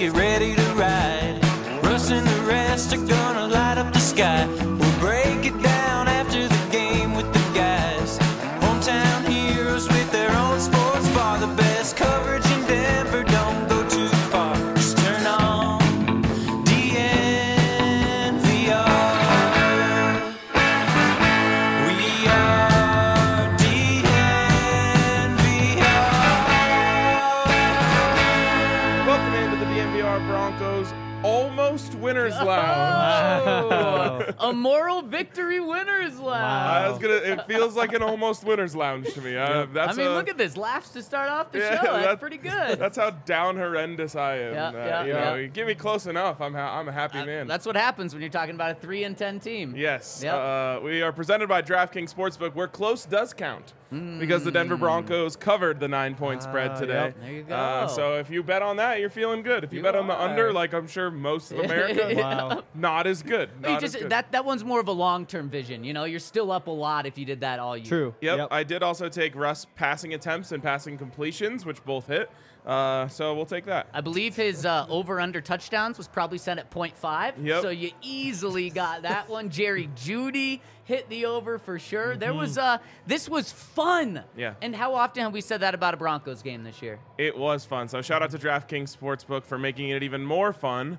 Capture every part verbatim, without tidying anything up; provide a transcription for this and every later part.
get ready to ride. Russ and the rest are gonna light up the sky. We'll break it down after the game with the guys. Hometown heroes with their own sports bar. The best coverage in Denver, don't go too far. Just turn on D N V R. We are D N V R. Welcome into the D N V R Broncos Almost Winners Lounge. Oh, a moral victory winners lounge. I was gonna. It feels like an almost winners lounge to me. Uh, I that's mean, a- look at this. Laughs to start off the Yeah, show. That's that- pretty good. That's how down horrendous I am. Yeah, Uh, yeah, you know, yeah. you get me close enough, I'm ha- I'm a happy Uh, man. That's what happens when you're talking about a three and ten team. Yes. Yep. Uh, we are presented by DraftKings Sportsbook, where close does count, because the Denver Broncos covered the nine-point spread Ah, today. yep. There you go. Uh, so if you bet on that, you're feeling good. If you, You bet on the are. under, like I'm sure most of America, Wow. not as good. You Not just as good. that that one's more of a long-term vision. You know, you're still up a lot if you did that all year. True. Yep, I did also take Russ passing attempts and passing completions, which both hit. Uh, so we'll take that. I believe his uh, over-under touchdowns was probably set at point five. Yep. So you easily got that one. Jerry Jeudy hit the over for sure. There was uh, this was fun. Yeah. And how often have we said that about a Broncos game this year? It was fun. So shout out to DraftKings Sportsbook for making it even more fun.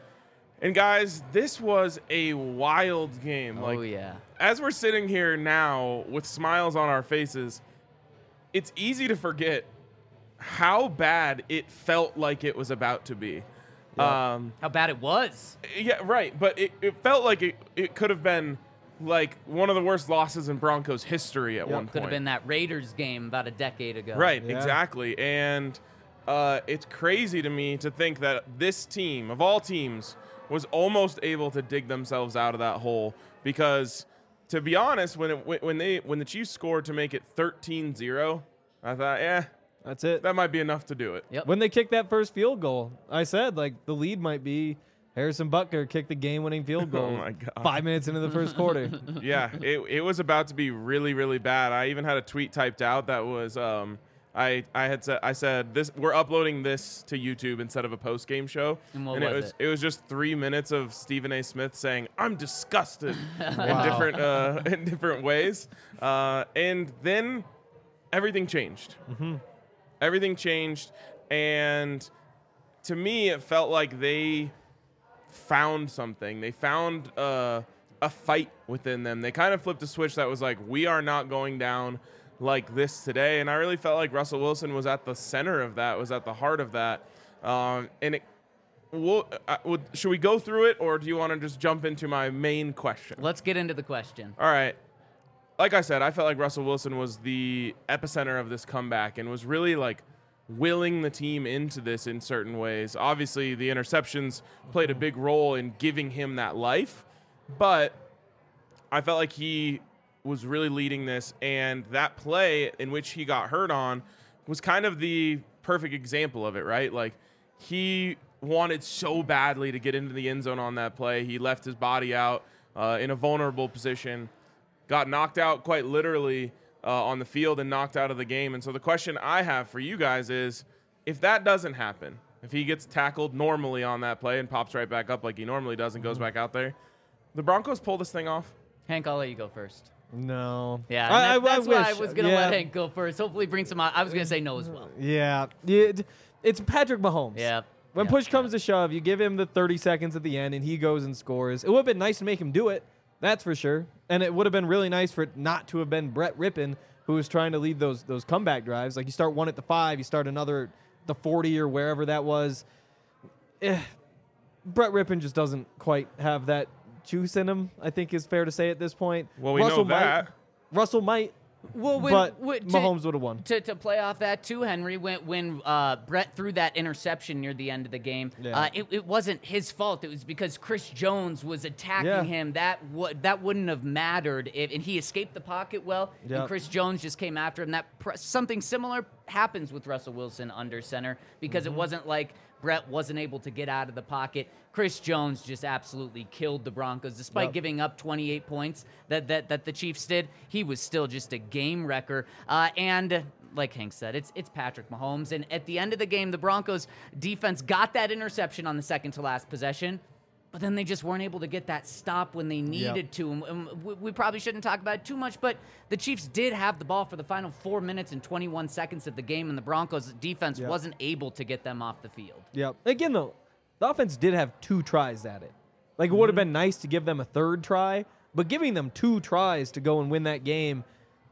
And guys, this was a wild game. Oh, like, yeah. As we're sitting here now with smiles on our faces, it's easy to forget how bad it felt like it was about to be. Um, How bad it was. yeah, right. But it, it felt like it, it could have been like one of the worst losses in Broncos history at one point. Could have been that Raiders game about a decade ago. Right, Yeah. exactly. And uh, it's crazy to me to think that this team, of all teams, was almost able to dig themselves out of that hole. Because, to be honest, when it, when they when the Chiefs scored to make it thirteen zero, I thought, yeah, That's it. that might be enough to do it. Yep. When they kicked that first field goal, I said, like, the lead might be Harrison Butker kicked the game-winning field goal Oh, my God. five minutes into the first quarter. Yeah, it, it was about to be really, really bad. I even had a tweet typed out that was, um, I I had said I said this we're uploading this to YouTube instead of a post game show, And what it was was it? it was just three minutes of Stephen A. Smith saying I'm disgusted in Wow. different uh, in different ways, uh, and then everything changed. Everything changed, and to me, it felt like they found something. They found uh, a fight within them. They kind of flipped a switch that was like, we are not going down like this today. And I really felt like Russell Wilson was at the center of that, was at the heart of that. Um, and it, we'll, uh, would, should we go through it, or do you want to just jump into my main question? Let's get into the question. All right. Like I said, I felt like Russell Wilson was the epicenter of this comeback and was really like willing the team into this in certain ways. Obviously, the interceptions played a big role in giving him that life, but I felt like he was really leading this, and that play in which he got hurt on was kind of the perfect example of it, right? Like, he wanted so badly to get into the end zone on that play. He left his body out uh, in a vulnerable position, got knocked out quite literally uh, on the field and knocked out of the game. And so the question I have for you guys is, if that doesn't happen, if he gets tackled normally on that play and pops right back up like he normally does and goes back out there, the Broncos pull this thing off? Hank, I'll let you go first. No. Yeah, I, and that- I, that's I why wish. I was going to yeah. let Hank go first. Hopefully bring some out. I was going to say no as well. Yeah. It, it's Patrick Mahomes. Yeah. When Yeah. push comes to shove, you give him the thirty seconds at the end, and he goes and scores. It would have been nice to make him do it. That's for sure. And it would have been really nice for it not to have been Brett Rippon who was trying to lead those those comeback drives. Like, you start one at the five, you start another at the forty or wherever that was. Eh, Brett Rippon just doesn't quite have that juice in him, I think is fair to say at this point. Well, we Russell know that. Might, Russell might, Well, when, but when- to- Mahomes would have won. To, to play off that too, Henry, when when uh, Brett threw that interception near the end of the game, Yeah. uh, it, it wasn't his fault. It was because Chris Jones was attacking Yeah. him. That w- that wouldn't have mattered if, and he escaped the pocket well. Yep. And Chris Jones just came after him. That pr- something similar happens with Russell Wilson under center because Mm-hmm. it wasn't like Brett wasn't able to get out of the pocket. Chris Jones just absolutely killed the Broncos. Despite Yep. giving up twenty-eight points that, that, that the Chiefs did, he was still just a game wrecker. Uh, and like Hank said, it's it's Patrick Mahomes. And at the end of the game, the Broncos defense got that interception on the second to last possession, but then they just weren't able to get that stop when they needed Yep. to. And- and we, we probably shouldn't talk about it too much, but the Chiefs did have the ball for the final four minutes and twenty-one seconds of the game, and the Broncos defense Yep. wasn't able to get them off the field. Yep. Again, though, the offense did have two tries at it. Like, it would have been nice to give them a third try, but giving them two tries to go and win that game,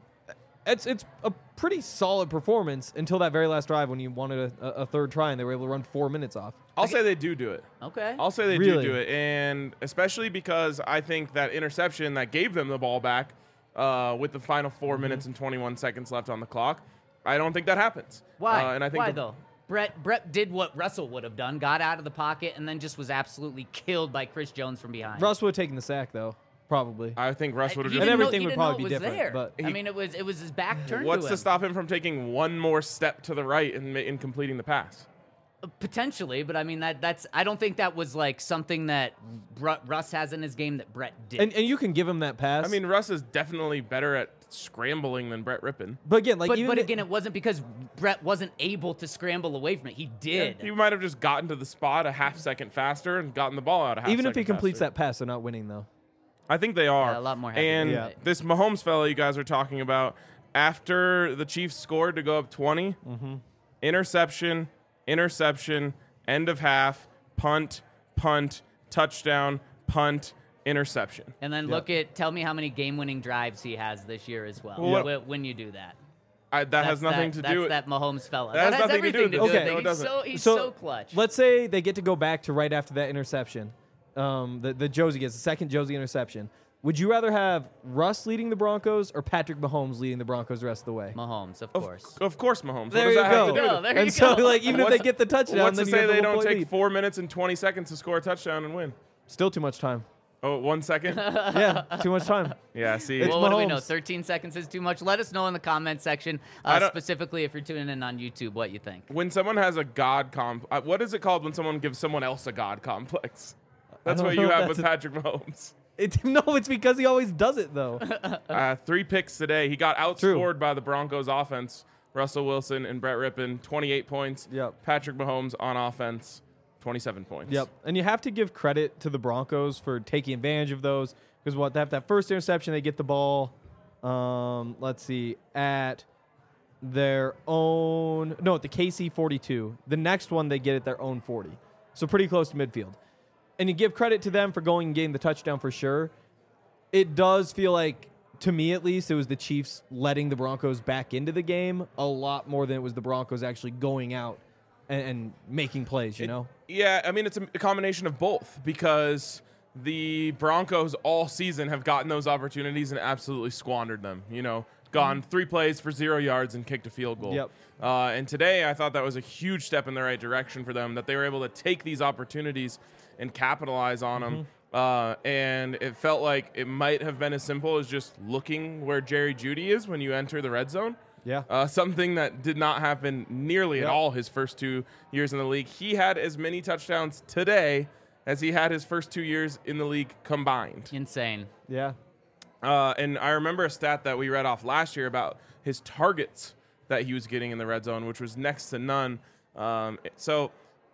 it's it's a pretty solid performance until that very last drive when you wanted a, a third try and they were able to run four minutes off. I'll say they do do it. Okay. I'll say they Really? do do it, and especially because I think that interception that gave them the ball back uh, with the final four Mm-hmm. minutes and twenty-one seconds left on the clock, I don't think that happens. Why? Uh, and I think Why the- though? Brett Brett did what Russell would have done, got out of the pocket, and then just was absolutely killed by Chris Jones from behind. Russ would have taken the sack, though, probably. I think Russ would have He just. didn't know- everything he would didn't know probably it be was different, there. but- I He- mean, it was it was his back turned What's to to him. stop him from taking one more step to the right and, ma- in completing the pass? Potentially, but I mean that that's I don't think that was like something that Bru- Russ has in his game that Brett did. And, and you can give him that pass. I mean, Russ is definitely better at scrambling than Brett Rippon. but again, like but even but the- again, it wasn't because Brett wasn't able to scramble away from it. He did. He might have just gotten to the spot a half second faster and gotten the ball out a half even if he second completes faster. that pass, they're not winning, though. I think they are. Yeah, a lot more happy And with Yeah. it. this Mahomes fella you guys are talking about, after the Chiefs scored to go up twenty, Mm-hmm. interception, interception, end of half, punt, punt, touchdown, punt, interception. And then Yep. look at tell me how many game-winning drives he has this year as well. Well, wh- When you do that, I, that That's has nothing that, to that's do with that Mahomes fella. That has has nothing to do everything with to it. do with Okay. it. No, it He's doesn't. so he's so so clutch. Let's say they get to go back to right after that interception. Um, the, the Josie gets the second Josie interception. Would you rather have Russ leading the Broncos or Patrick Mahomes leading the Broncos the rest of the way? Mahomes, of Of, course. of course, Mahomes. There what does you that go. have to do with Go, it? there and you so, go. like, even if What's- they get the touchdown, What's then to you say have they the don't one-point take lead. four minutes and twenty seconds to score a touchdown and win? Still too much time. Oh, one second? Yeah, too much time. Yeah, see. It's Well, what do we know? Mahomes. thirteen seconds is too much. Let us know in the comment section, I uh, don't- specifically if you're tuning in on YouTube, what you think. when someone has a God comp, uh, what is it called when someone gives someone else a God complex? That's don't what know you if have that's with a- Patrick Mahomes. It, no, it's because he always does it, though. Uh, three picks today. He got True. outscored by the Broncos offense. Russell Wilson and Brett Rippon, twenty-eight points. Yep. Patrick Mahomes on offense, twenty-seven points. Yep. And you have to give credit to the Broncos for taking advantage of those because what they have that first interception, they get the ball. Um, let's see, at their own no, at the K C forty-two. The next one they get at their own forty, so pretty close to midfield. And you give credit to them for going and getting the touchdown for sure. It does feel like, to me at least, it was the Chiefs letting the Broncos back into the game a lot more than it was the Broncos actually going out and, and making plays. You know. Yeah, I mean, it's a a combination of both because the Broncos all season have gotten those opportunities and absolutely squandered them. You know, gone three plays for zero yards and kicked a field goal. Yep. Uh, and today, I thought that was a huge step in the right direction for them, that they were able to take these opportunities and capitalize on them. Uh, and it felt like it might have been as simple as just looking where Jerry Jeudy is when you enter the red zone. Yeah. Uh, something that did not happen nearly Yep. at all his first two years in the league. He had as many touchdowns today as he had his first two years in the league combined. Insane. Yeah. Uh, and I remember a stat that we read off last year about his targets that he was getting in the red zone, which was next to none. Um, so,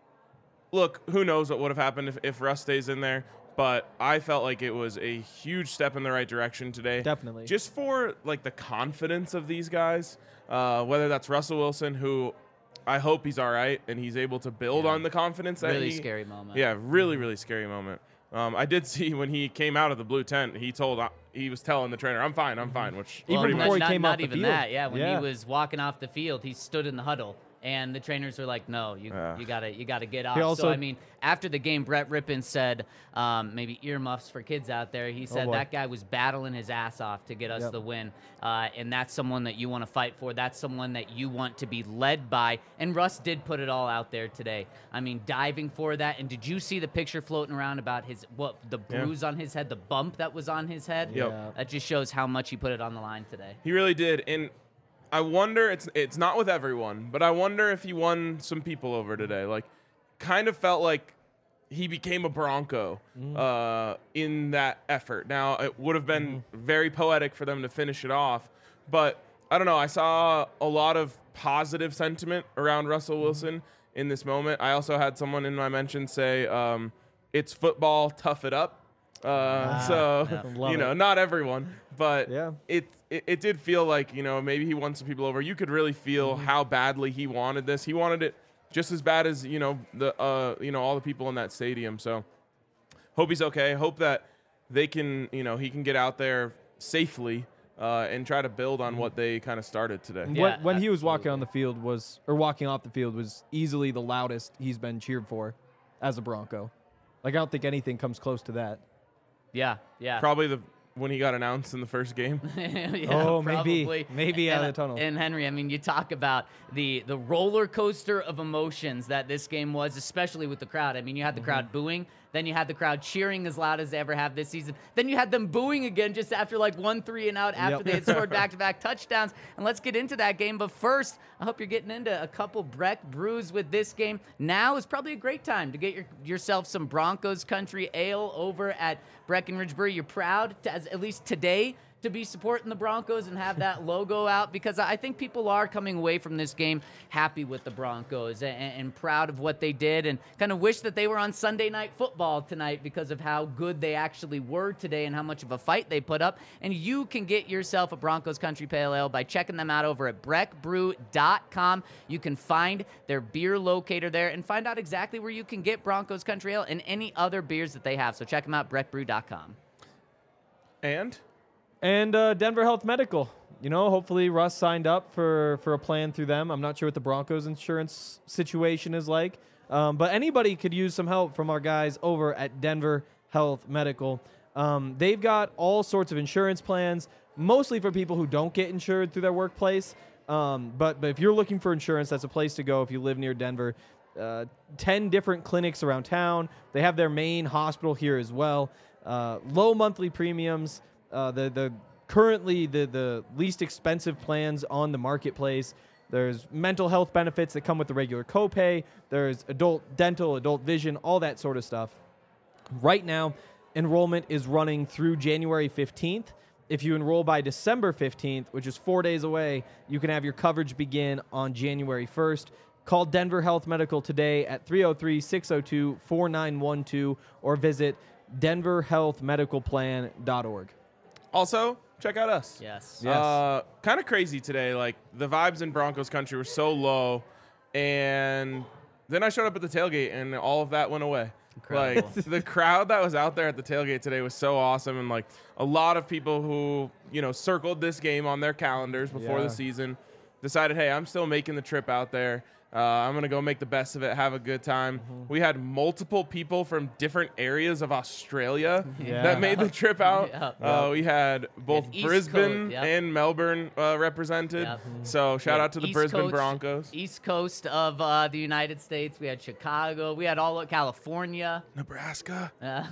look, who knows what would have happened if, if Russ stays in there. But I felt like it was a huge step in the right direction today. Definitely. Just for like the confidence of these guys, uh, whether that's Russell Wilson, who I hope he's all right and he's able to build Yeah. on the confidence that Really he, scary moment. Yeah, really, really scary moment. Um, I did see when he came out of the blue tent, he told uh, he was telling the trainer, "I'm fine, I'm fine." Which Even pretty not, before he not, came not off the even field. that. Yeah, when Yeah. he was walking off the field, he stood in the huddle, and the trainers were like, "No, you Yeah. you gotta you gotta get off." He also- so I mean, after the game, Brett Rippon said, um, maybe earmuffs for kids out there. He said boy. that guy was battling his ass off to get us Yep. the win, uh, and that's someone that you want to fight for. That's someone that you want to be led by. And Russ did put it all out there today. I mean, diving for that. And did you see the picture floating around about his what the Yeah. bruise on his head, the bump that was on his head? Yep. Yeah. That just shows how much he put it on the line today. He really did, and I wonder. It's it's not with everyone, but I wonder if he won some people over today. Like, kind of felt like he became a Bronco uh, in that effort. Now, it would have been very poetic for them to finish it off, but I don't know. I saw a lot of positive sentiment around Russell Wilson in this moment. I also had someone in my mention say, um, "It's football, tough it up." Uh, so yeah. Love you know, it. not everyone, but Yeah. it, it it did feel like, you know, maybe he won some people over. You could really feel how badly he wanted this. He wanted it just as bad as, you know, the uh you know all the people in that stadium. So hope he's okay. Hope that they can, you know, he can get out there safely uh, and try to build on what they kind of started today. And Yeah, when, when he was walking absolutely. on the field was or walking off the field was easily the loudest he's been cheered for as a Bronco. Like I don't think anything comes close to that. Yeah, yeah. Probably the when he got announced in the first game. Yeah, Oh, maybe. probably. Maybe out and, of the tunnel. And Henry, I mean, you talk about the the roller coaster of emotions that this game was, especially with the crowd. I mean, you had the Mm-hmm. crowd booing, then you had the crowd cheering as loud as they ever have this season. Then you had them booing again just after like one three and out after Yep. they had scored back-to-back touchdowns. And let's get into that game. But first, I hope you're getting into a couple Breck brews with this game. Now is probably a great time to get your, yourself some Broncos Country Ale over at Breckenridge Brewery. You're proud, to, as, at least today, to be supporting the Broncos and have that logo out, because I think people are coming away from this game happy with the Broncos and, and proud of what they did, and kind of wish that they were on Sunday Night Football tonight because of how good they actually were today and how much of a fight they put up. And you can get yourself a Broncos Country Pale Ale by checking them out over at breck brew dot com. You can find their beer locator there and find out exactly where you can get Broncos Country Ale and any other beers that they have. So check them out, breck brew dot com. And And uh, Denver Health Medical. You know, hopefully Russ signed up for, for a plan through them. I'm not sure what the Broncos insurance situation is like. Um, but anybody could use some help from our guys over at Denver Health Medical. Um, they've got all sorts of insurance plans, mostly for people who don't get insured through their workplace. Um, but, but if you're looking for insurance, that's a place to go if you live near Denver. Uh, ten different clinics around town. They have their main hospital here as well. Uh, low monthly premiums. Uh, the the currently the the least expensive plans on the marketplace. There's mental health benefits that come with the regular copay. There's adult dental, adult vision, all that sort of stuff. Right now, enrollment is running through January fifteenth. If you enroll by December fifteenth, which is four days away, you can have your coverage begin on January first. Call Denver Health Medical today at three oh three, six oh two, four nine one two or visit denver health medical plan dot org. also, check out us. Yes. Yes. Uh, kind of crazy today. Like, the vibes in Broncos country were so low, and then I showed up at the tailgate, and all of that went away. Incredible. Like, the crowd that was out there at the tailgate today was so awesome, and like a lot of people who, you know, circled this game on their calendars before Yeah. the season decided, hey, I'm still making the trip out there. Uh, I'm going to go make the best of it, have a good time. We had multiple people from different areas of Australia Yeah. that made the trip out. Yeah. Uh, we had both East Brisbane Coast, yep. and Melbourne uh, represented. Yep. So shout Yeah, out to the East Brisbane Coast- Broncos. East Coast of uh, the United States. We had Chicago. We had all of California. Nebraska.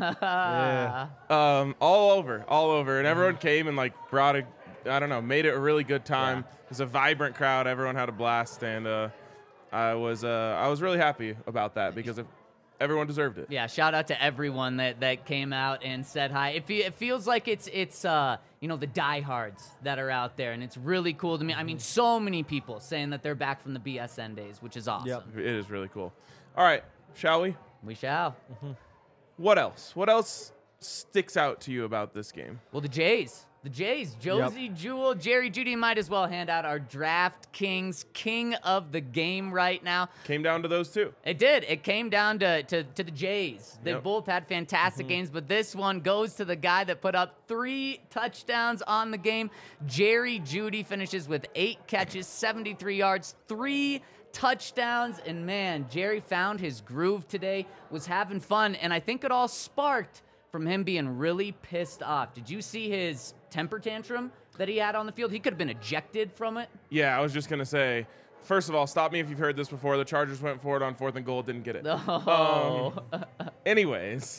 yeah. Um, all over, all over. And everyone came and like brought a, I don't know, made it a really good time. Yeah. It was a vibrant crowd. Everyone had a blast. And uh, I was uh, I was really happy about that because if everyone deserved it. Yeah, shout out to everyone that, that came out and said hi. It, fe- it feels like it's it's uh you know the diehards that are out there, and it's really cool to me. I mean, so many people saying that they're back from the B S N days, which is awesome. Yep. It is really cool. All right, shall we? We shall. What else? What else sticks out to you about this game? Well, the Jays. The Jays, Josie Jewell, Jerry Judy, might as well hand out our DraftKings King of the Game right now. Came down to those two. It did. It came down to, to, to the Jays. They Yep. both had fantastic games, but this one goes to the guy that put up three touchdowns on the game. Jerry Judy finishes with eight catches, seventy-three yards, three touchdowns, and man, Jerry found his groove today, was having fun, and I think it all sparked from him being really pissed off. Did you see his temper tantrum that he had on the field? He could have been ejected from it. Yeah, I was just going to say, first of all, stop me if you've heard this before. The Chargers went forward on fourth and goal, didn't get it. Oh. Anyways,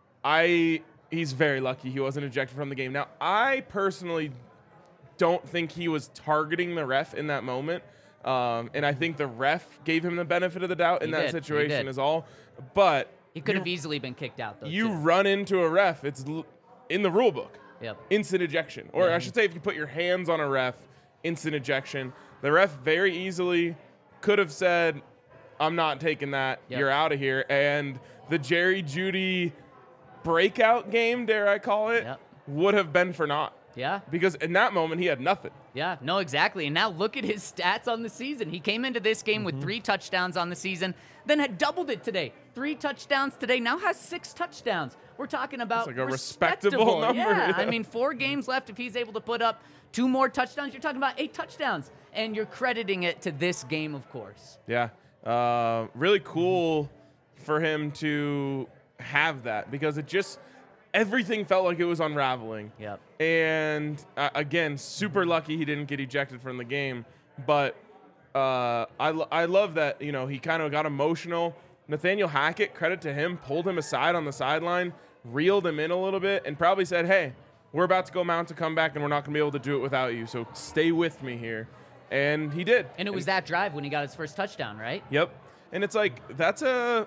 I he's very lucky he wasn't ejected from the game. Now, I personally don't think he was targeting the ref in that moment. Um, and I think the ref gave him the benefit of the doubt in He that did, he situation did. is all. But He could you- have easily been kicked out, though. you too. run into a ref, it's l- in the rule book. Yep. Instant ejection. Or I should say if you put your hands on a ref, instant ejection. The ref very easily could have said, I'm not taking that. Yep. You're out of here. And the Jerry Jeudy breakout game, dare I call it, Yep. would have been for naught. Yeah. Because in that moment, he had nothing. Yeah, no, exactly. And now look at his stats on the season. He came into this game Mm-hmm. with three touchdowns on the season, then had doubled it today. Three touchdowns today, now has six touchdowns. We're talking about That's like a respectable number, Yeah. yeah. I mean, four games left. If he's able to put up two more touchdowns, you're talking about eight touchdowns. And you're crediting it to this game, of course. Yeah. Uh, really cool for him to have that because it just everything felt like it was unraveling. Yep. And uh, again, super lucky he didn't get ejected from the game. But uh, I, lo- I love that, you know, he kind of got emotional. Nathaniel Hackett, credit to him, pulled him aside on the sideline, reeled him in a little bit, and probably said, hey, we're about to go mount a comeback, and we're not going to be able to do it without you. So stay with me here. And he did. And it was that drive when he got his first touchdown, right? Yep. And it's like, that's a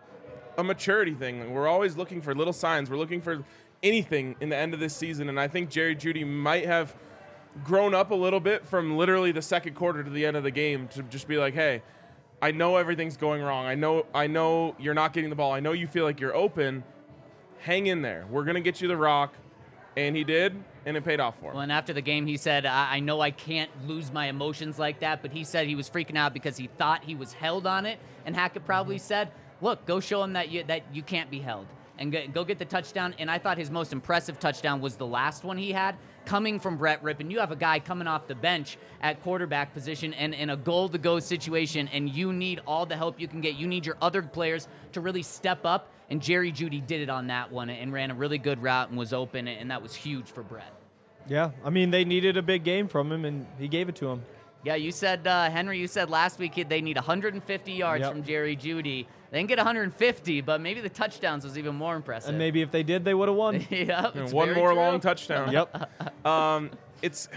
a maturity thing. We're always looking for little signs. We're looking for anything in the end of this season. And I think Jerry Jeudy might have grown up a little bit from literally the second quarter to the end of the game to just be like, hey, I know everything's going wrong. I know I know you're not getting the ball. I know you feel like you're open. Hang in there. We're going to get you the rock. And he did, and it paid off for him. Well, and after the game, he said, I-, I know I can't lose my emotions like that, but he said he was freaking out because he thought he was held on it. And Hackett probably said, look, go show him that you, that you can't be held. And go, go get the touchdown. And I thought his most impressive touchdown was the last one he had, coming from Brett Rippon. You have a guy coming off the bench at quarterback position and in a goal-to-go situation, and you need all the help you can get. You need your other players to really step up. And Jerry Jeudy did it on that one and ran a really good route and was open, and that was huge for Brett. Yeah, I mean, they needed a big game from him, and he gave it to him. Yeah, you said, uh, Henry, you said last week they need one hundred fifty yards Yep. from Jerry Jeudy. They didn't get one hundred fifty, but maybe the touchdowns was even more impressive. And maybe if they did, they would have won. Yep, And it's one very more true. long touchdown. Yep. Um, it's,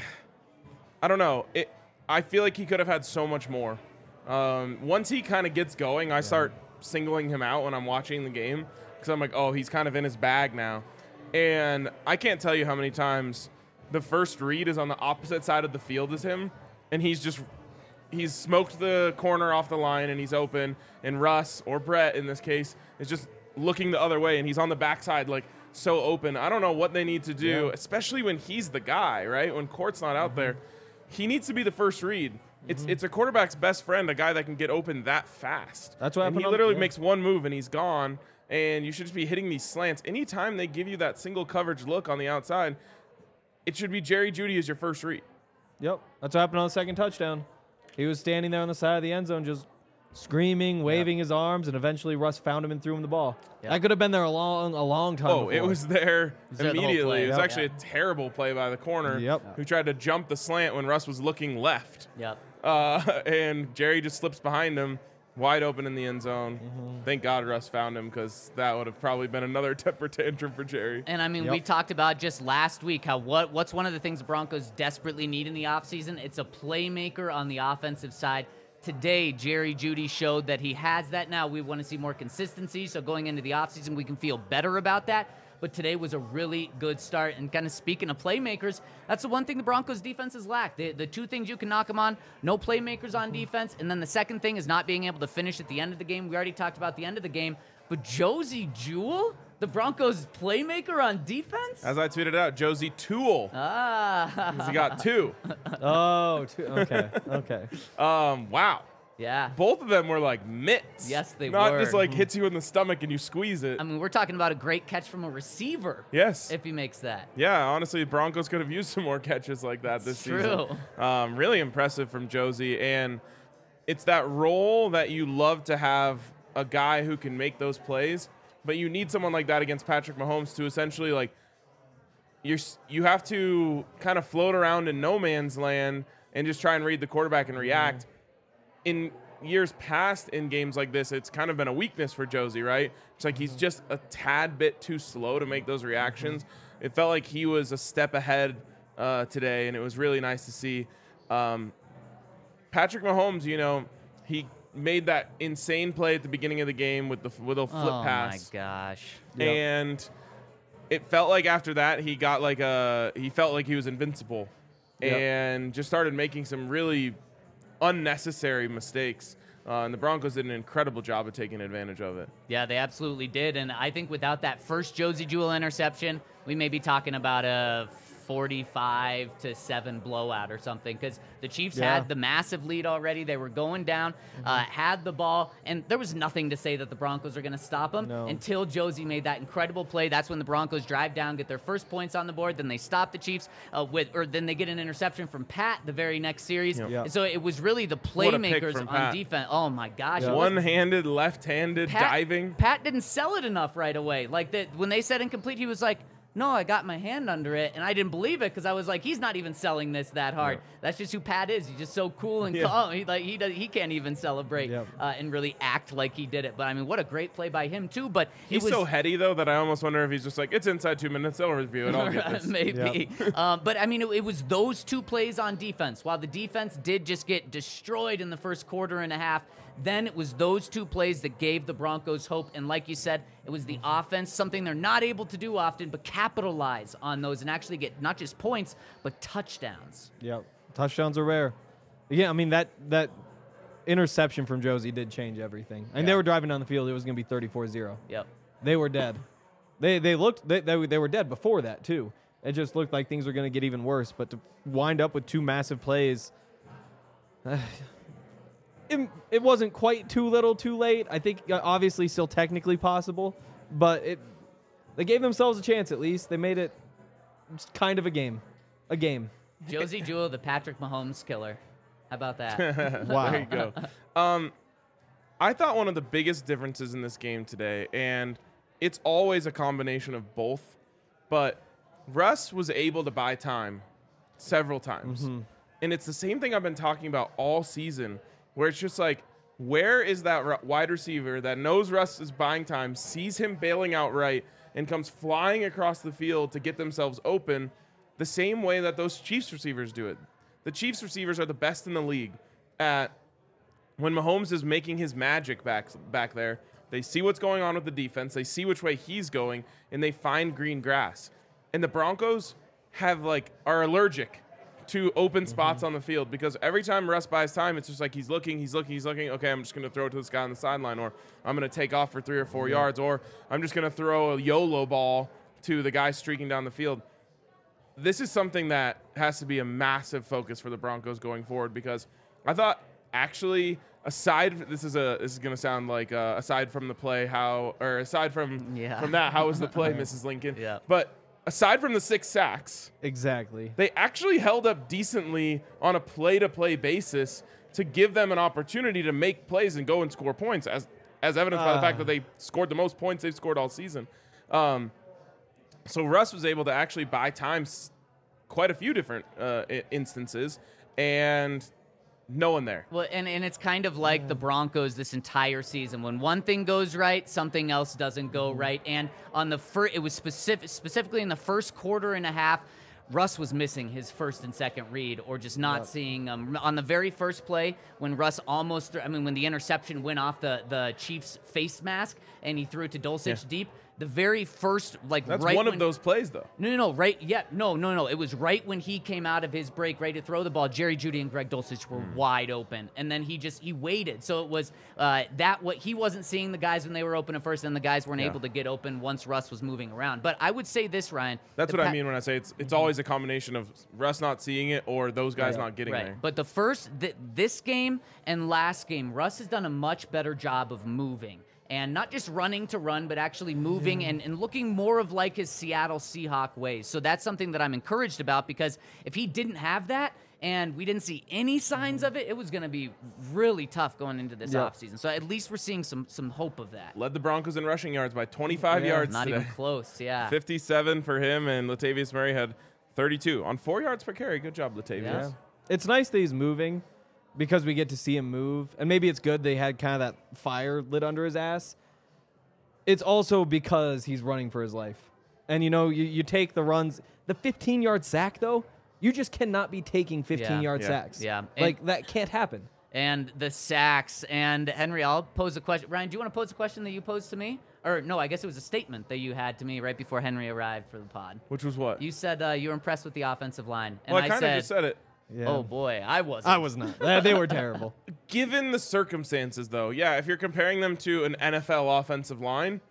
I don't know. It. I feel like he could have had so much more. Um, once he kind of gets going, I start singling him out when I'm watching the game because I'm like, oh, he's kind of in his bag now. And I can't tell you how many times the first read is on the opposite side of the field as him, and he's just he's smoked the corner off the line and he's open, and Russ, or Brett in this case, is just looking the other way and he's on the backside like so open. I don't know what they need to do, Yeah. especially when he's the guy, right? When Court's not out there. He needs to be the first read. It's it's a quarterback's best friend, a guy that can get open that fast. That's what and happened he on- literally yeah. makes one move and he's gone, and you should just be hitting these slants. Anytime they give you that single coverage look on the outside, it should be Jerry Jeudy as your first read. Yep. That's what happened on the second touchdown. He was standing there on the side of the end zone just screaming, waving his arms, and eventually Russ found him and threw him the ball. Yep. That could have been there a long, a long time Oh, it before. was there was there the whole immediately. play. It was Yep. actually a terrible play by the corner Yep. who tried to jump the slant when Russ was looking left. Yep. Uh, and Jerry just slips behind him, wide open in the end zone. Mm-hmm. Thank God Russ found him because that would have probably been another temper tantrum for Jerry. And I mean, Yep. we talked about just last week how what what's one of the things the Broncos desperately need in the offseason? It's a playmaker on the offensive side. Today, Jerry Jeudy showed that he has that now. We want to see more consistency, so going into the offseason, we can feel better about that. But today was a really good start. And kind of speaking of playmakers, that's the one thing the Broncos defenses lack. The, the two things you can knock them on, no playmakers on defense. And then the second thing is not being able to finish at the end of the game. We already talked about the end of the game. But Josie Jewell, the Broncos playmaker on defense? As I tweeted out, Josie Toole, Ah. 'cause he got two. Oh, two, okay, okay. Um, wow. Yeah. Both of them were like mitts. Yes, they Not were. just like hits you in the stomach and you squeeze it. I mean, we're talking about a great catch from a receiver. yes. If he makes that. Yeah, honestly, Broncos could have used some more catches like that this It's season. true. Um, really impressive from Josie, and it's that role that you love to have a guy who can make those plays, but you need someone like that against Patrick Mahomes to essentially like you're s- you have to kind of float around in no man's land and just try and read the quarterback and react. In years past in games like this, it's kind of been a weakness for Josie, right? It's like he's just a tad bit too slow to make those reactions. It felt like he was a step ahead uh, today, and it was really nice to see. Um, Patrick Mahomes, you know, he made that insane play at the beginning of the game with the with a flip oh pass, my gosh. Yep. and it felt like after that he got like a he felt like he was invincible. Yep. and just started making some really unnecessary mistakes. Uh, and the Broncos did an incredible job of taking advantage of it. Yeah, they absolutely did. And I think without that first Josie Jewell interception, we may be talking about a forty-five to seven blowout or something, because the Chiefs Yeah. had the massive lead already. They were going down, uh, had the ball, and there was nothing to say that the Broncos are going to stop them No. until Josie made that incredible play. That's when the Broncos drive down, get their first points on the board. Then they stop the Chiefs uh, with, or then they get an interception from Pat the very next series. Yep. Yeah. And so it was really the What a pick playmakers from on Pat. defense. Oh my gosh. Yeah. it was- One-handed, left-handed, Pat, diving. Pat didn't sell it enough right away. Like that when they said incomplete, he was like, "No, I got my hand under it," and I didn't believe it because I was like, "He's not even selling this that hard." Yeah. That's just who Pat is. He's just so cool and Yeah. calm. He like he does, he can't even celebrate Yep. uh, and really act like he did it. But I mean, what a great play by him too. But He's it was so heady, though, that I almost wonder if he's just like, it's inside two minutes, they'll review it, I'll get this. Maybe. um, but I mean, it, it was those two plays on defense. While the defense did just get destroyed in the first quarter and a half, then it was those two plays that gave the Broncos hope. And like you said, it was the offense, something they're not able to do often, but capitalize on those and actually get not just points, but touchdowns. Yep. Touchdowns are rare. Yeah, I mean, that that interception from Josie did change everything. And they Yeah. were driving down the field. It was going to be thirty-four zero. Yep. They were dead. They they looked they, they, they were dead before that too. It just looked like things were going to get even worse. But to wind up with two massive plays, it, it wasn't quite too little, too late. I think uh, obviously still technically possible, but it they gave themselves a chance at least. They made it just kind of a game, a game. Josie Jewell, the Patrick Mahomes killer. How about that? Wow. There you go. Um, I thought one of the biggest differences in this game today, and it's always a combination of both, but Russ was able to buy time several times. And it's the same thing I've been talking about all season, where it's just like, where is that ru- wide receiver that knows Russ is buying time, sees him bailing out right, and comes flying across the field to get themselves open the same way that those Chiefs receivers do it. The Chiefs receivers are the best in the league at when Mahomes is making his magic back back there. They see what's going on with the defense. They see which way he's going, and they find green grass. And the Broncos have like are allergic to open spots on the field because every time Russ buys time, it's just like he's looking, he's looking, he's looking. Okay, I'm just going to throw it to this guy on the sideline, or I'm going to take off for three or four yards, or I'm just going to throw a YOLO ball to the guy streaking down the field. This is something that has to be a massive focus for the Broncos going forward because I thought actually aside this is a this is going to sound like uh, aside from the play how or aside from Yeah. from that how was the play Missus Lincoln Yeah. but aside from the six sacks Exactly. they actually held up decently on a play-to-play basis to give them an opportunity to make plays and go and score points as as evidenced by the fact Ah. that they scored the most points they've scored all season. Um, So Russ was able to actually buy time s- quite a few different uh, I- instances, and no one there. Well, and, and it's kind of like the Broncos this entire season. When one thing goes right, something else doesn't go right. And on the first, it was specific, specifically in the first quarter and a half, Russ was missing his first and second read, or just not Yep. seeing um, on the very first play when Russ almost. Threw, I mean, when the interception went off the the Chiefs' face mask and he threw it to Dulcich Yeah. deep. The very first, like That's right one when, of those plays, though. No, no, no, right? Yeah, no, no, no. It was right when he came out of his break, ready to throw the ball. Jerry Jeudy and Greg Dulcich were wide open, and then he just he waited. So it was uh, that what he wasn't seeing the guys when they were open at first, and the guys weren't Yeah. able to get open once Russ was moving around. But I would say this, Ryan. That's the what I pa- mean when I say it's it's always a combination of Russ not seeing it or those guys Right. not getting Right. there. But the first, th- this game and last game, Russ has done a much better job of moving. And not just running to run, but actually moving and, and looking more of like his Seattle Seahawk ways. So that's something that I'm encouraged about because if he didn't have that and we didn't see any signs of it, it was going to be really tough going into this Yep. offseason. So at least we're seeing some some hope of that. Led the Broncos in rushing yards by twenty-five Yeah, yards Not today. even close, yeah. fifty-seven for him, and Latavius Murray had thirty-two on four yards per carry. Good job, Latavius. Yeah. Yeah. It's nice that he's moving because we get to see him move. And maybe it's good they had kind of that fire lit under his ass. It's also because he's running for his life. And, you know, you, you take the runs. The fifteen-yard sack, though, you just cannot be taking fifteen-yard Yeah. sacks. Yeah. And- Like, that can't happen. and the sacks. And Henry, I'll pose a question. Ryan, do you want to pose a question that you posed to me? Or no, I guess it was a statement that you had to me right before Henry arrived for the pod. Which was what? You said uh, you were impressed with the offensive line. And well, I I kind of said, just said it. Yeah. oh boy, I wasn't. I was not. Uh, they were terrible. Given the circumstances, though, yeah, if you're comparing them to an N F L offensive line,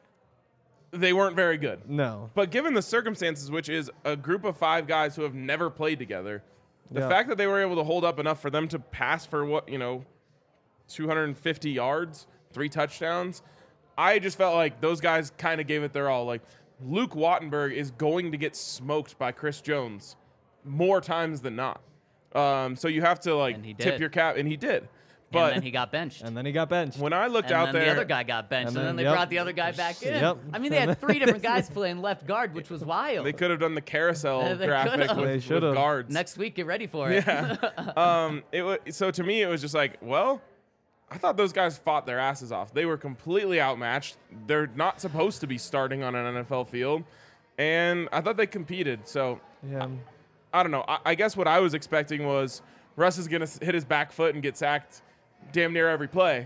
they weren't very good. No. But given the circumstances, which is a group of five guys who have never played together, the Yeah. fact that they were able to hold up enough for them to pass for what, you know, two hundred fifty yards, three touchdowns, I just felt like those guys kind of gave it their all. Like, Luke Wattenberg is going to get smoked by Chris Jones more times than not. Um, so you have to, like, And he tip did. your cap, and he did. and But then he got benched. And then he got benched. when I looked And out then there, the other guy got benched, And and, then- then, they yep. brought the other guy back in. Yep. I mean, they had three different guys playing left guard, which was wild. they could have done the carousel They graphic could've. with, They with should've. guards. Next week, get ready for it. Yeah. um, it was, so to me, it was just like, well, I thought those guys fought their asses off. They were completely outmatched. They're not supposed to be starting on an N F L field, and I thought they competed. So Yeah. I don't know. I, I guess what I was expecting was Russ is going to hit his back foot and get sacked damn near every play.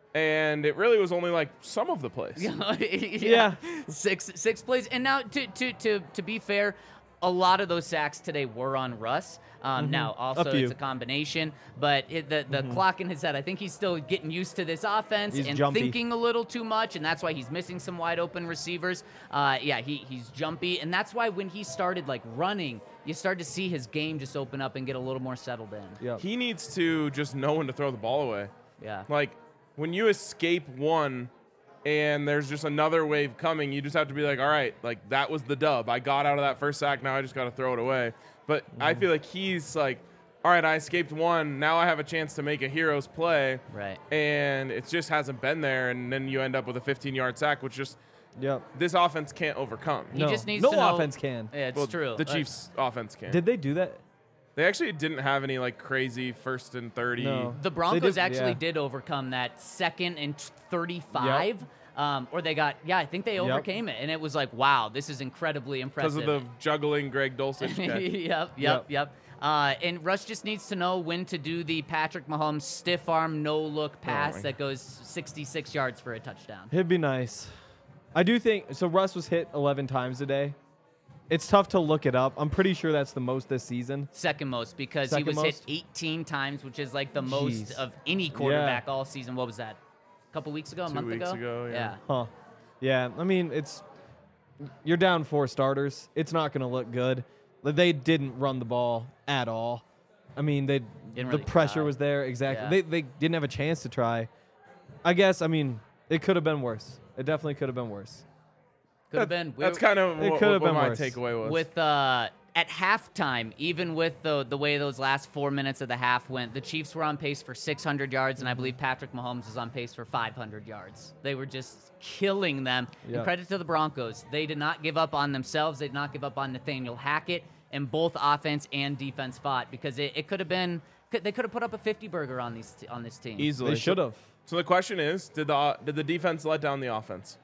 And it really was only like some of the plays. yeah. Yeah. Six six plays. And now to to to to be fair, a lot of those sacks today were on Russ. Um, Now, also, few. it's a combination, but it, the, the clock in his head, I think he's still getting used to this offense He's and jumpy. thinking a little too much, and that's why he's missing some wide open receivers. Uh, yeah, he, he's jumpy, and that's why when he started like running, you start to see his game just open up and get a little more settled in. Yep. He needs to just know when to throw the ball away. Yeah. Like, when you escape one and there's just another wave coming, you just have to be like, all right, like, that was the dub. I got out of that first sack. Now I just got to throw it away. But I feel like he's like, all right, I escaped one. Now I have a chance to make a hero's play. Right. And it just hasn't been there. And then you end up with a fifteen-yard sack, which just Yep. this offense can't overcome. He No. just needs no to know. offense can. Yeah, it's Well, true. The Uh, Chiefs' offense can. Did they do that? They actually didn't have any, like, crazy first and thirty. No. The They Broncos did- actually yeah. did overcome that second and thirty-five. Um, or they got, yeah, I think they overcame it. And it was like, wow, this is incredibly Because impressive. of the juggling Greg Dulcich guy. yep, yep, Yep. yep. Uh, and Russ just needs to know when to do the Patrick Mahomes stiff arm, no look pass my that goes sixty-six yards for a touchdown. It'd be nice. I do think so. Russ was hit eleven times today. It's tough to look it up. I'm pretty sure that's the most this season. Second most because Second he was most? hit eighteen times, which is like the most Jeez. of any quarterback all season. What was that? A couple weeks ago, a Two month weeks ago? ago, yeah. Huh. Yeah, I mean, it's you're down four starters. It's not going to look good. Like, they didn't run the ball at all. I mean, they Didn't the really pressure try. was there exactly. Yeah. They they didn't have a chance to try. I guess. I mean, it could have been worse. It definitely could have been worse. Could have been. That's We- kind of It what, could have what been my worse. takeaway was. with uh, at halftime, even with the the way those last four minutes of the half went, the Chiefs were on pace for six hundred yards, and I believe Patrick Mahomes was on pace for five hundred yards. They were just killing them. Yeah. And credit to the Broncos. They did not give up on themselves. They did not give up on Nathaniel Hackett, and both offense and defense fought because it, it could have been. Could, they could have put up a fifty burger on these on this team. Easily. They should have. So the question is, did the did the defense let down the offense?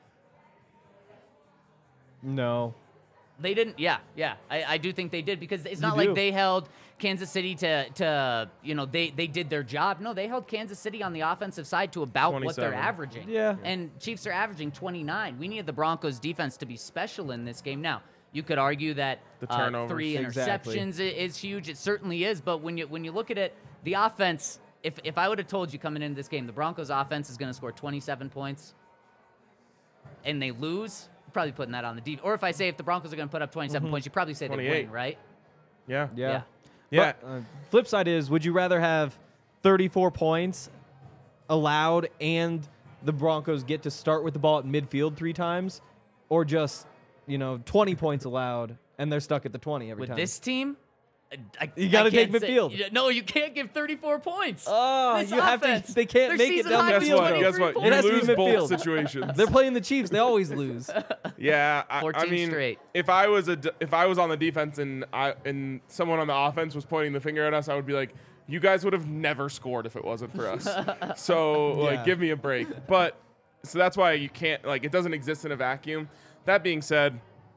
No. They didn't. Yeah, yeah. I, I do think they did because it's not You do. like they held Kansas City to to you know they they did their job. No, they held Kansas City on the offensive side to about what they're twenty-seven. averaging. Yeah. And Chiefs are averaging twenty-nine. We needed the Broncos defense to be special in this game. Now you could argue that The uh, turnovers. three Exactly. interceptions i- is huge. It certainly is. But when you when you look at it, the offense. If if I would have told you coming into this game, the Broncos offense is going to score twenty-seven points, and they lose. Probably putting that on the defense. Or if I say if the Broncos are going to put up twenty-seven points, you probably say they twenty-eight. win, right? Yeah. Yeah. Yeah. But, uh, flip side is, would you rather have thirty-four points allowed and the Broncos get to start with the ball at midfield three times, or just, you know, twenty points allowed and they're stuck at the twenty every With take this team, I, You gotta I can't take say- midfield. no, you can't give thirty-four points. Oh, This you have offense, to. They can't their make it season down high the is Guess field. what? twenty-three Guess what? points. It You has to be lose both midfield. situations. They're playing the Chiefs. They always lose. Yeah, I, I fourteen mean, straight. if I was a d- if I was on the defense and I and someone on the offense was pointing the finger at us, I would be like, you guys would have never scored if it wasn't for us. So like, Yeah. give me a break. But so that's why you can't like it doesn't exist in a vacuum. That being said,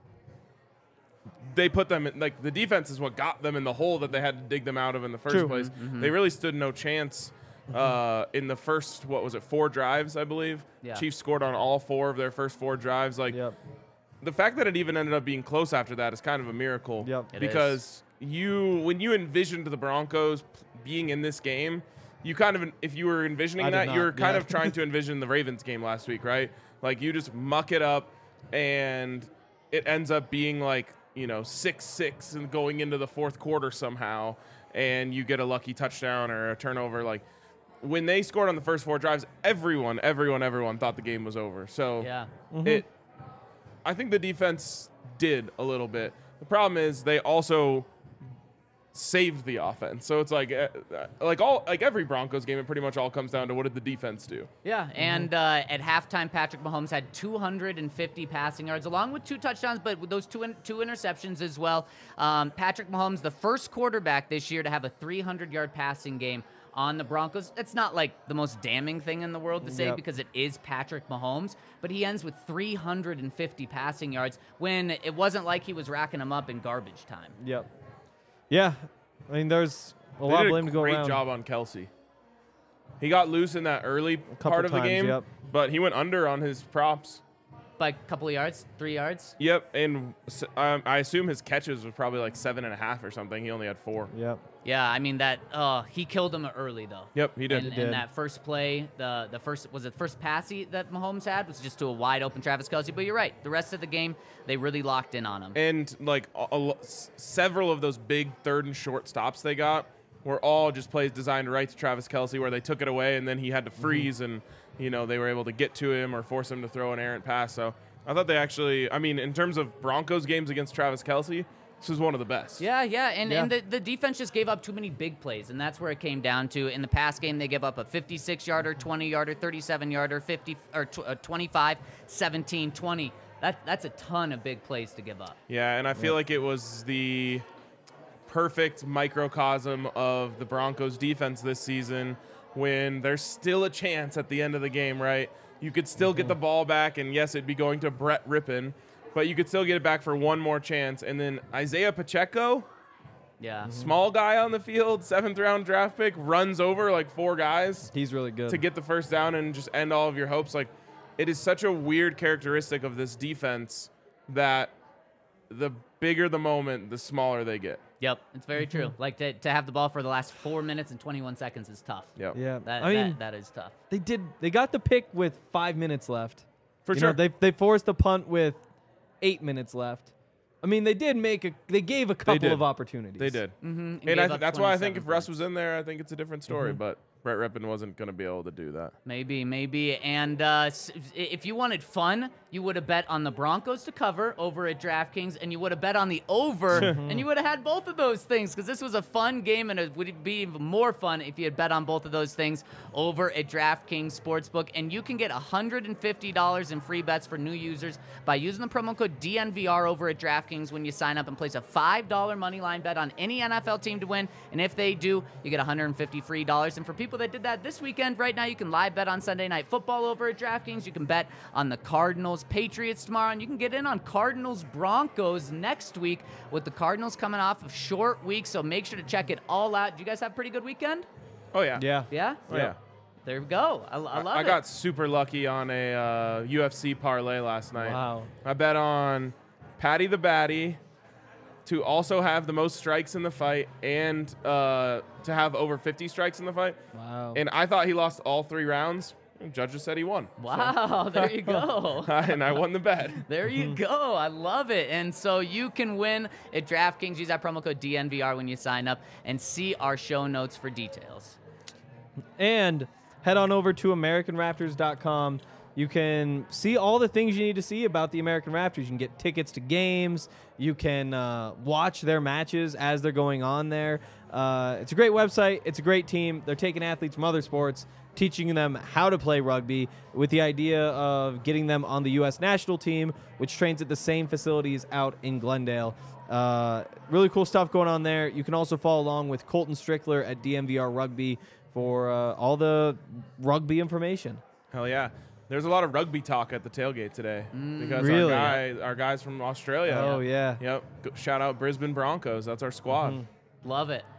they put them in, like the defense is what got them in the hole that they had to dig them out of in the first True. place. Mm-hmm. They really stood no chance. uh, in the first, what was it, four drives, I believe. Yeah. Chiefs scored on all four of their first four drives. Like, Yep. the fact that it even ended up being close after that is kind of a miracle. Yep. It because you, when you envisioned the Broncos p- being in this game, you kind of, if you were envisioning I did that, not, you were kind yeah. of trying to envision the Ravens game last week, right? Like, you just muck it up, and it ends up being like, you know, six six and going into the fourth quarter somehow, and you get a lucky touchdown or a turnover. Like, when they scored on the first four drives, everyone, everyone, everyone thought the game was over. So Yeah. it, I think the defense did a little bit. The problem is they also saved the offense. So it's like, uh, like all, like every Broncos game, it pretty much all comes down to what did the defense do? Yeah, and uh, at halftime, Patrick Mahomes had two hundred fifty passing yards, along with two touchdowns, but with those two in, two interceptions as well. Um, Patrick Mahomes, the first quarterback this year to have a three hundred yard passing game on the Broncos. It's not like the most damning thing in the world to say Yep. because it is Patrick Mahomes, but he ends with three hundred fifty passing yards when it wasn't like he was racking them up in garbage time. Yep. Yeah. I mean, there's a They lot did of a blame to go great around. job on Kelsey. He got loose in that early part of the times, game, yep. but he went under on his props. By a couple of yards, three yards. Yep, and s- um, I assume his catches was probably like seven and a half or something. He only had four. Yep. Yeah, I mean that. Uh, he killed him early though. Yep, he did. And, He did. and that first play, the the first was it the first pass he, that Mahomes had was just to a wide open Travis Kelce. But you're right. The rest of the game, they really locked in on him. And like a, a, lo- s- several of those big third and short stops they got were all just plays designed right to Travis Kelce, where they took it away and then he had to freeze, and you know they were able to get to him or force him to throw an errant pass. So I thought they actually, I mean, in terms of Broncos games against Travis Kelce, this was one of the best. Yeah, yeah, and, Yeah. and the, the defense just gave up too many big plays, and that's where it came down to. In the pass game, they gave up a fifty-six yarder, twenty yarder, thirty-seven yarder, fifty or tw- uh, twenty-five, seventeen, twenty. That that's a ton of big plays to give up. Yeah, and I feel like it was the perfect microcosm of the Broncos defense this season when there's still a chance at the end of the game, right? You could still get the ball back, and yes, it'd be going to Brett Rippon, but you could still get it back for one more chance. And then Isaiah Pacheco, Yeah. small guy on the field, seventh round draft pick, runs over like four guys He's really good. to get the first down and just end all of your hopes. Like, it is such a weird characteristic of this defense that the bigger the moment, the smaller they get. Yep, it's very true. Like to, to have the ball for the last four minutes and twenty-one seconds is tough. Yep. Yeah. That, I mean, that, that is tough. they did. They got the pick with five minutes left. For You sure. know, they they forced the punt with eight minutes left. I mean, they did make a. They gave a couple did. of opportunities. They did. Mm-hmm. And And gave I up th- that's why I think if twenty-seven Russ points. was in there, I think it's a different story. But Brett Rippon wasn't going to be able to do that. Maybe, maybe. And uh, s- if you wanted fun, you would have bet on the Broncos to cover over at DraftKings, and you would have bet on the over, and you would have had both of those things because this was a fun game, and it would be even more fun if you had bet on both of those things over at DraftKings Sportsbook. And you can get one hundred fifty dollars in free bets for new users by using the promo code D N V R over at DraftKings when you sign up and place a five dollar money line bet on any N F L team to win. And if they do, you get one hundred fifty dollars free dollars. And for people that did that this weekend, right now you can live bet on Sunday Night Football over at DraftKings. You can bet on the Cardinals Patriots tomorrow, and you can get in on Cardinals Broncos next week with the Cardinals coming off of short week. So make sure to check it all out. Did you guys have a pretty good weekend? Oh, yeah. Yeah. Yeah? Oh, yeah. There we go. I, I love I it. got super lucky on a uh, U F C parlay last night. Wow. I bet on Patty the Batty to also have the most strikes in the fight and uh, to have over fifty strikes in the fight. Wow. And I thought he lost all three rounds. And judges said he won. Wow, there you go. And I won the bet. There you go. I love it. And so you can win at DraftKings. Use that promo code D N V R when you sign up and see our show notes for details. And head on over to American Raptors dot com. You can see all the things you need to see about the American Raptors. You can get tickets to games. You can uh, watch their matches as they're going on there. Uh, it's a great website. It's a great team. They're taking athletes from other sports, teaching them how to play rugby with the idea of getting them on the U S national team, which trains at the same facilities out in Glendale. Uh, really cool stuff going on there. You can also follow along with Colton Strickler at D M V R Rugby for uh, all the rugby information. Hell yeah. There's a lot of rugby talk at the tailgate today because Really? our guys, our guys from Australia. Oh, yeah. Yep. Go- Shout out Brisbane Broncos. That's our squad. Love it.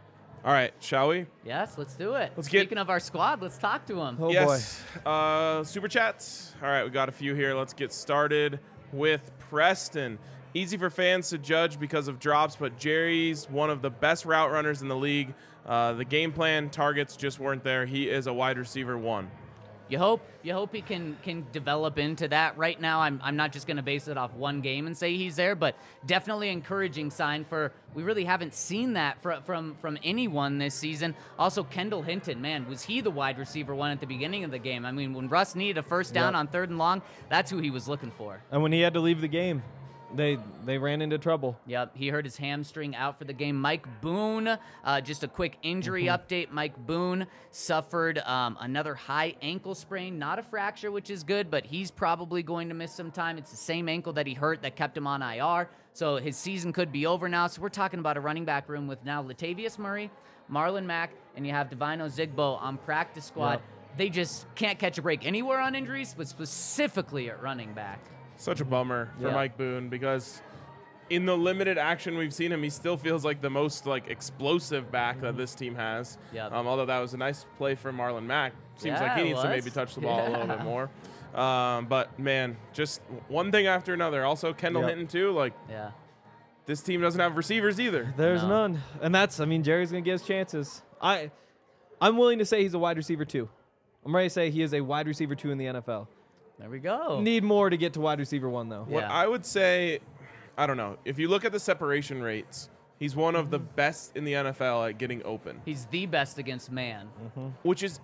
All right, shall we? Yes, let's do it. Let's get- Speaking of our squad, let's talk to him. Oh, yes. Uh, super chats. All right, we got a few here. Let's get started with Preston. Easy for fans to judge because of drops, but Jerry's one of the best route runners in the league. Uh, the game plan targets just weren't there. He is a wide receiver one. You hope you hope he can can develop into that. Right now, I'm I'm not just going to base it off one game and say he's there, but definitely encouraging sign for we really haven't seen that from from from anyone this season. Also, Kendall Hinton, man, was he the wide receiver one at the beginning of the game? I mean, when Russ needed a first down Yep. on third and long, that's who he was looking for. And when he had to leave the game, they they ran into trouble. Yep, he hurt his hamstring out for the game. Mike Boone, uh, just a quick injury update. Mike Boone suffered um, another high ankle sprain, not a fracture, which is good, but he's probably going to miss some time. It's the same ankle that he hurt that kept him on I R, so his season could be over now. So we're talking about a running back room with now Latavius Murray, Marlon Mack, and you have Divino Zigbo on practice squad. Yep. They just can't catch a break anywhere on injuries, but specifically at running back. Such a bummer for Yeah. Mike Boone because in the limited action we've seen him, he still feels like the most like explosive back that this team has. Yep. Um, although that was a nice play from Marlon Mack. Seems Yeah, like he it needs to was. maybe touch the ball a little Yeah. bit more. Um, but man, just one thing after another. Also, Kendall Yep. Hinton too. Like Yeah. this team doesn't have receivers either. There's No. none, and that's I mean Jerry's gonna get his chances. I I'm willing to say he's a wide receiver two. I'm ready to say he is a wide receiver two in the N F L. There we go. Need more to get to wide receiver one though. What Yeah. I would say, I don't know. If you look at the separation rates, he's one of the best in the N F L at getting open, He's the best against man. which is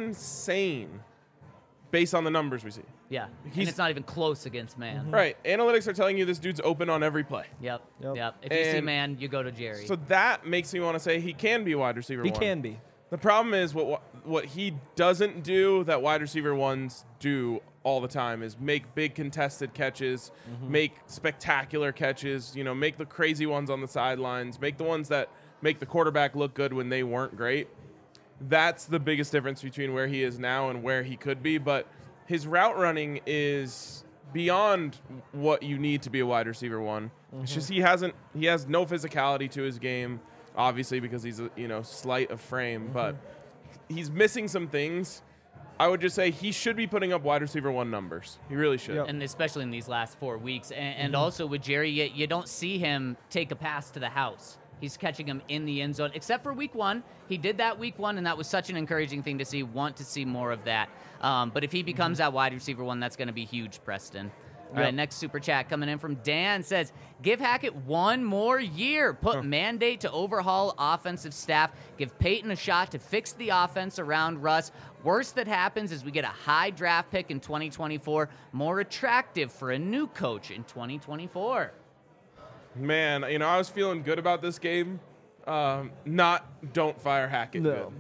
insane based on the numbers we see. Yeah. And He's- it's not even close against man. Right. Analytics are telling you this dude's open on every play. Yep. Yep. Yep. If you see And man, you go to Jerry. So that makes me want to say he can be a wide receiver He one. can be. The problem is what what he doesn't do that wide receiver ones do all the time is make big contested catches, make spectacular catches, you know, make the crazy ones on the sidelines, make the ones that make the quarterback look good when they weren't great. That's the biggest difference between where he is now and where he could be, but his route running is beyond what you need to be a wide receiver one. It's just he hasn't he has no physicality to his game, obviously because he's a, you know, slight of frame, but he's missing some things. I would just say he should be putting up wide receiver one numbers. He really should. Yep. and especially in these last four weeks. And, and also with Jerry, you, you don't see him take a pass to the house. He's catching them in the end zone, except for week one. He did that week one, and that was such an encouraging thing to see. Want to see more of that. Um, but if he becomes that wide receiver one, that's going to be huge, Preston. All right, Yep. next super chat coming in from Dan says, give Hackett one more year. Put mandate to overhaul offensive staff. Give Peyton a shot to fix the offense around Russ. Worst that happens is we get a high draft pick in twenty twenty-four, more attractive for a new coach in twenty twenty-four. Man, you know, I was feeling good about this game. Um, not don't fire Hackett. No. Good.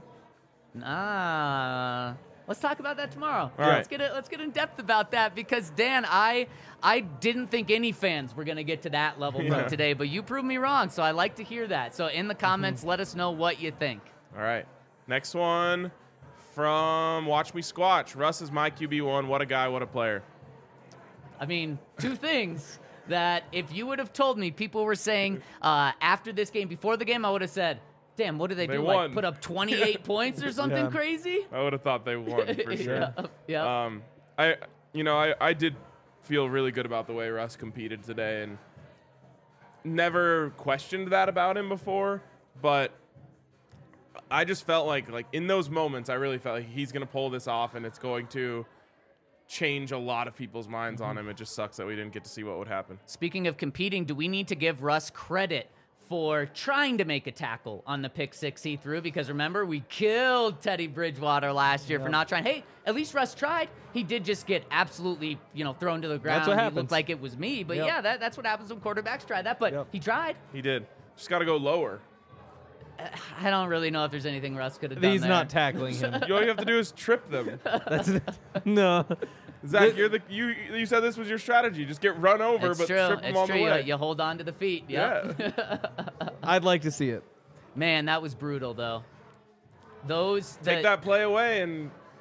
Ah, let's talk about that tomorrow. All let's right. get it. Let's get in depth about that because Dan, I I didn't think any fans were gonna get to that level Yeah. from today, but you proved me wrong. So I like to hear that. So in the comments, let us know what you think. All right. Next one from Watch Me Squatch. Russ is my Q B one. What a guy. What a player. I mean, two things that if you would have told me, people were saying uh, after this game, before the game, I would have said, "Damn, what did they, They do? won. Like put up twenty-eight points or something Yeah. crazy?" I would have thought they won for sure. yeah. yeah. Um, I, you know, I, I did feel really good about the way Russ competed today, and never questioned that about him before. But I just felt like, like in those moments, I really felt like he's gonna pull this off, and it's going to change a lot of people's minds on him. It just sucks that we didn't get to see what would happen. Speaking of competing, do we need to give Russ credit for trying to make a tackle on the pick six he threw? Because remember, we killed Teddy Bridgewater last year for Yep. not trying. Hey, at least Russ tried. He did just get absolutely, you know, thrown to the ground. That's what He happens. looked like it was me. But Yep. yeah, that, that's what happens when quarterbacks try that. But Yep. he tried. He did. Just got to go lower. I don't really know if there's anything Russ could have done He's there. not tackling him. All you have to do is trip them. That's no. Zach, you're the you. You said this was your strategy. Just get run over, It's but true. trip them It's on true. the You, way. you hold on to the feet. Yep. Yeah. I'd like to see it. Man, that was brutal, though. Those Take the- that play away, and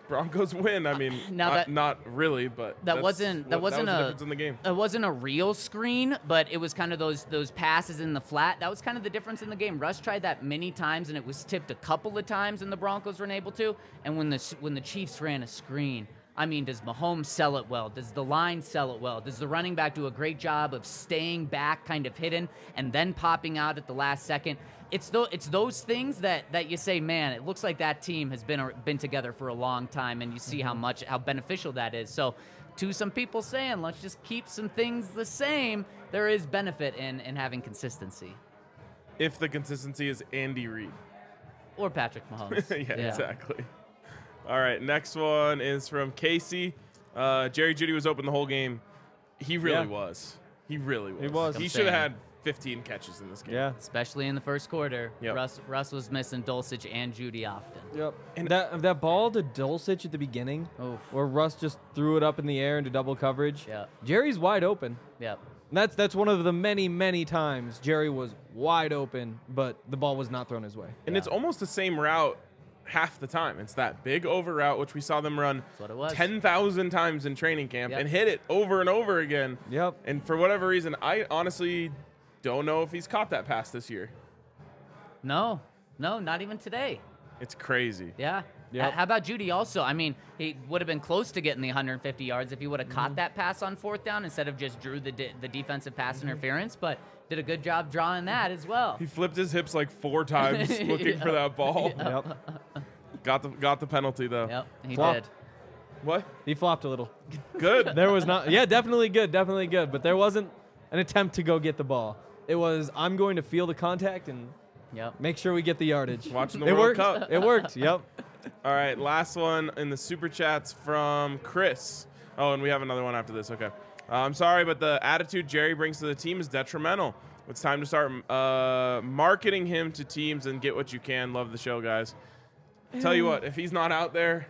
Broncos win. I mean, Now uh, that- not really, but That that's wasn't that what- wasn't that was the a difference in the game. It wasn't a real screen, but it was kind of those those passes in the flat. That was kind of the difference in the game. Russ tried that many times, and it was tipped a couple of times, and the Broncos weren't able to. And when the when the Chiefs ran a screen, I mean, does Mahomes sell it well? Does the line sell it well? Does the running back do a great job of staying back, kind of hidden, and then popping out at the last second? It's th- it's those things that, that you say, man, it looks like that team has been been together for a long time, and you see how much how beneficial that is. So, to some people saying, let's just keep some things the same, there is benefit in, in having consistency. If the consistency is Andy Reid. Or Patrick Mahomes. yeah, exactly. All right, next one is from Casey. Uh, Jerry Jeudy was open the whole game. He really Yeah. was. He really was. He was. He I'm should have saying. had fifteen catches in this game. Yeah. Especially in the first quarter. Yep. Russ Russ was missing Dulcich and Jeudy often. Yep. And that that ball to Dulcich at the beginning, Oof. where Russ just threw it up in the air into double coverage. Yep. Jerry's wide open. Yep. And that's that's one of the many many times Jerry was wide open, but the ball was not thrown his way. And it's almost the same route half the time. It's that big over route, which we saw them run what it was. ten thousand times in training camp Yep. and hit it over and over again. Yep. And for whatever reason, I honestly don't know if he's caught that pass this year. No. No, not even today. It's crazy. Yeah. Yep. H- How about Jeudy also? I mean, he would have been close to getting the one hundred fifty yards if he would have Mm-hmm. caught that pass on fourth down instead of just drew the de- the defensive pass Mm-hmm. interference, but did a good job drawing that as well. He flipped his hips like four times looking for that ball. Yep. Got the got the penalty though. Yep, he Flop. did. What? He flopped a little. Good. There was not. Yeah, definitely good, definitely good. But there wasn't an attempt to go get the ball. It was I'm going to feel the contact and Yep. make sure we get the yardage. Watching the it World worked. Cup. It worked. Yep. All right, last one in the super chats from Chris. Oh, and we have another one after this. Okay. Uh, I'm sorry, but the attitude Jerry brings to the team is detrimental. It's time to start uh, marketing him to teams and get what you can. Love the show, guys. Tell you what, if he's not out there,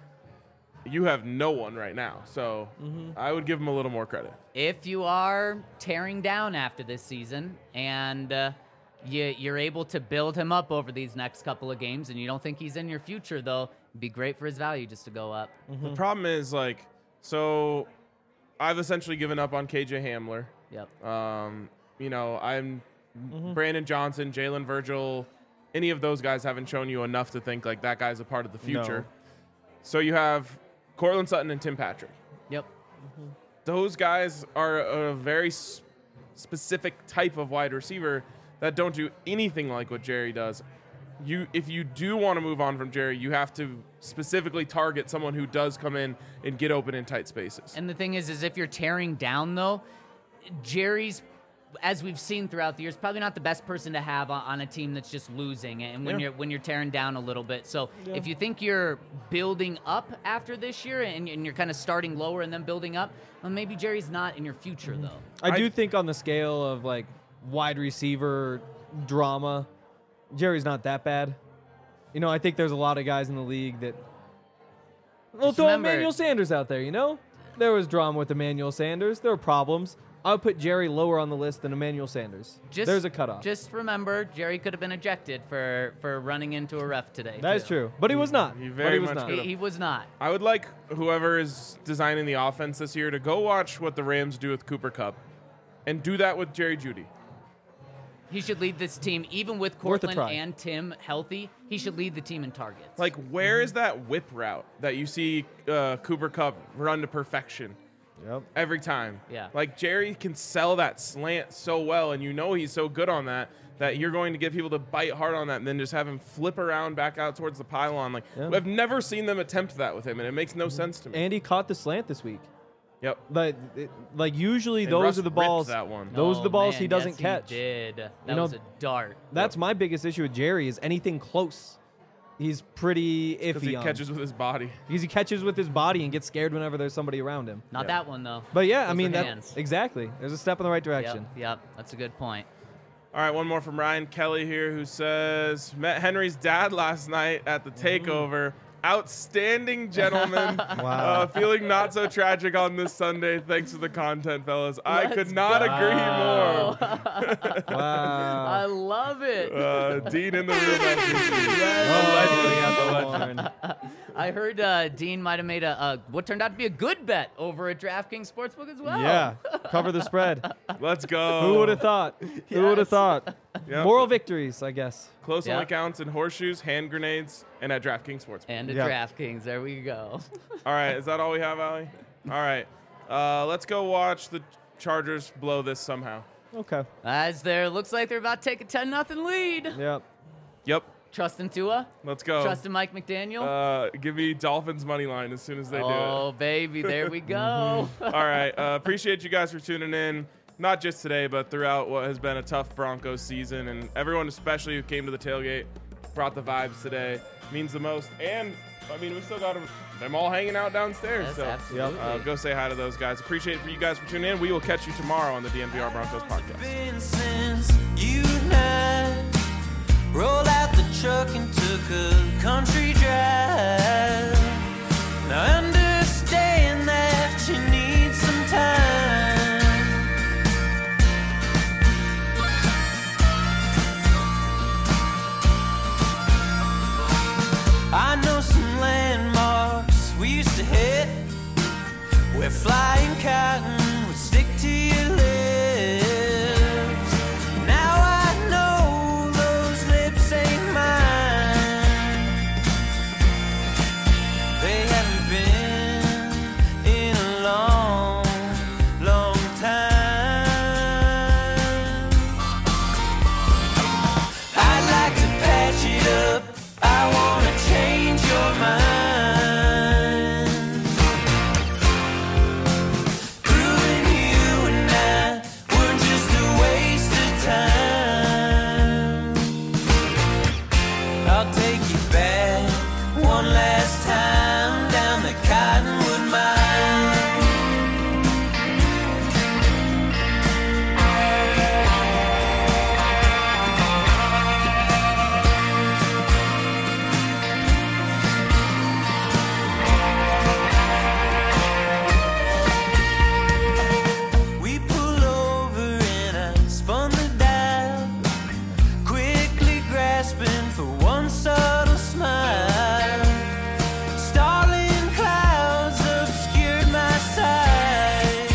you have no one right now. So I would give him a little more credit. If you are tearing down after this season and uh, you, you're able to build him up over these next couple of games and you don't think he's in your future, though, it'd be great for his value just to go up. The problem is, like, so I've essentially given up on K J Hamler. Yep. Um, you know, I'm Brandon Johnson, Jalen Virgil. Any of those guys haven't shown you enough to think like that guy's a part of the future. No. So you have Cortland Sutton and Tim Patrick. Yep. Those guys are a very s- specific type of wide receiver that don't do anything like what Jerry does. You, if you do want to move on from Jerry, you have to specifically target someone who does come in and get open in tight spaces. And the thing is, is if you're tearing down, though, Jerry's, as we've seen throughout the years, probably not the best person to have on, on a team that's just losing and when Yeah. you're when you're tearing down a little bit. So if you think you're building up after this year and, and you're kind of starting lower and then building up, well, maybe Jerry's not in your future, though. I do I- think on the scale of like wide receiver drama, Jerry's not that bad. You know, I think there's a lot of guys in the league that. Well, Just throw remember- Emmanuel Sanders out there. You know, there was drama with Emmanuel Sanders. There were problems. I would put Jerry lower on the list than Emmanuel Sanders. Just, There's a cutoff. Just remember, Jerry could have been ejected for, for running into a ref today. that is too. true, but he was not. he But very was much not. could He, he was not. I would like whoever is designing the offense this year to go watch what the Rams do with Cooper Kupp and do that with Jerry Jeudy. He should lead this team, even with Worth a Cortland try. and Tim healthy. He should lead the team in targets. Like, where is that whip route that you see uh, Cooper Kupp run to perfection Yep. every time? Yeah. Like, Jerry can sell that slant so well, and you know he's so good on that, that you're going to get people to bite hard on that and then just have him flip around back out towards the pylon. Like, Yeah. I've never seen them attempt that with him, and it makes no sense to me. And he caught the slant this week. Yep. But it, like usually And those Russ are the ripped balls. that one. Those Oh, are the balls man, he doesn't yes, catch. He did. That You know, was a dart. That's my biggest issue with Jerry is anything close. He's pretty Because iffy he on. catches with his body. Because he catches with his body and gets scared whenever there's somebody around him. Not Yeah. that one though. But yeah, I Those mean were that hands. exactly. There's a step in the right direction. Yep, yep, that's a good point. All right, one more from Ryan Kelly here, who says met Henry's dad last night at the takeover. outstanding gentleman. Wow. Uh, feeling not so tragic on this Sunday thanks to the content, fellas. I Let's could not go. agree more. Wow. I love it. Uh, Dean in the room. as we see. Oh, The legend. the horn. I heard uh, Dean might have made a, a what turned out to be a good bet over at DraftKings Sportsbook as well. Yeah, cover the spread. Let's go. Who would have thought? Who would Yes. have thought? Yep. Moral victories, I guess. Close Yeah. only counts in horseshoes, hand grenades, and at DraftKings Sportsbook. And at Yeah. DraftKings, there we go. All right, is that all we have, Allie? All right, uh, let's go watch the Chargers blow this somehow. Okay. As there looks like they're about to take a ten nothing lead. Yep. Yep, Trusting Tua, let's go. trusting Mike McDaniel. Uh, give me Dolphins money line as soon as they oh baby, there we go. do it. All right, uh, appreciate you guys for tuning in. Not just today, but throughout what has been a tough Broncos season, and everyone, especially who came to the tailgate, brought the vibes today. Means the most. And I mean, we still got them, them all hanging out downstairs. Yes, so absolutely. uh, go say hi to those guys. Appreciate it for you guys for tuning in. We will catch you tomorrow on the D N V R Broncos podcast. Been since you and I rolled out the truck and took a country drive. Now I understand that you need some time. I know some landmarks we used to hit where flying cotton would stick to your lips. Now I know those lips ain't mine. They haven't been in a long, long time. I'd like to patch it up. I wanna change your mind. Proving you and I were just a waste of time. I'll take you back one last time down the Cottonwood Mine. We pull over and I spun the dial, quickly grasping for one subtle smile. Starling clouds obscured my sight.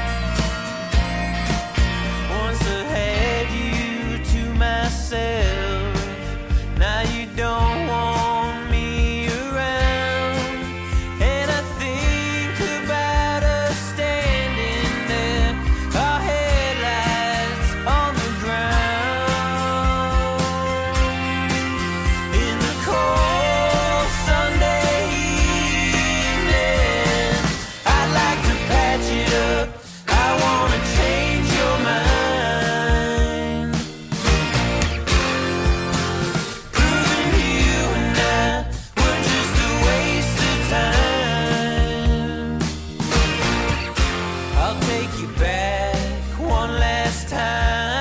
Once I had you to myself, now you don't want me around. And I think about us standing there, our headlights on the ground. In the cold Sunday evening, I'd like to patch it up. I wanna change your mind. Proving you and I were just a waste of time. I'll take you back one last time.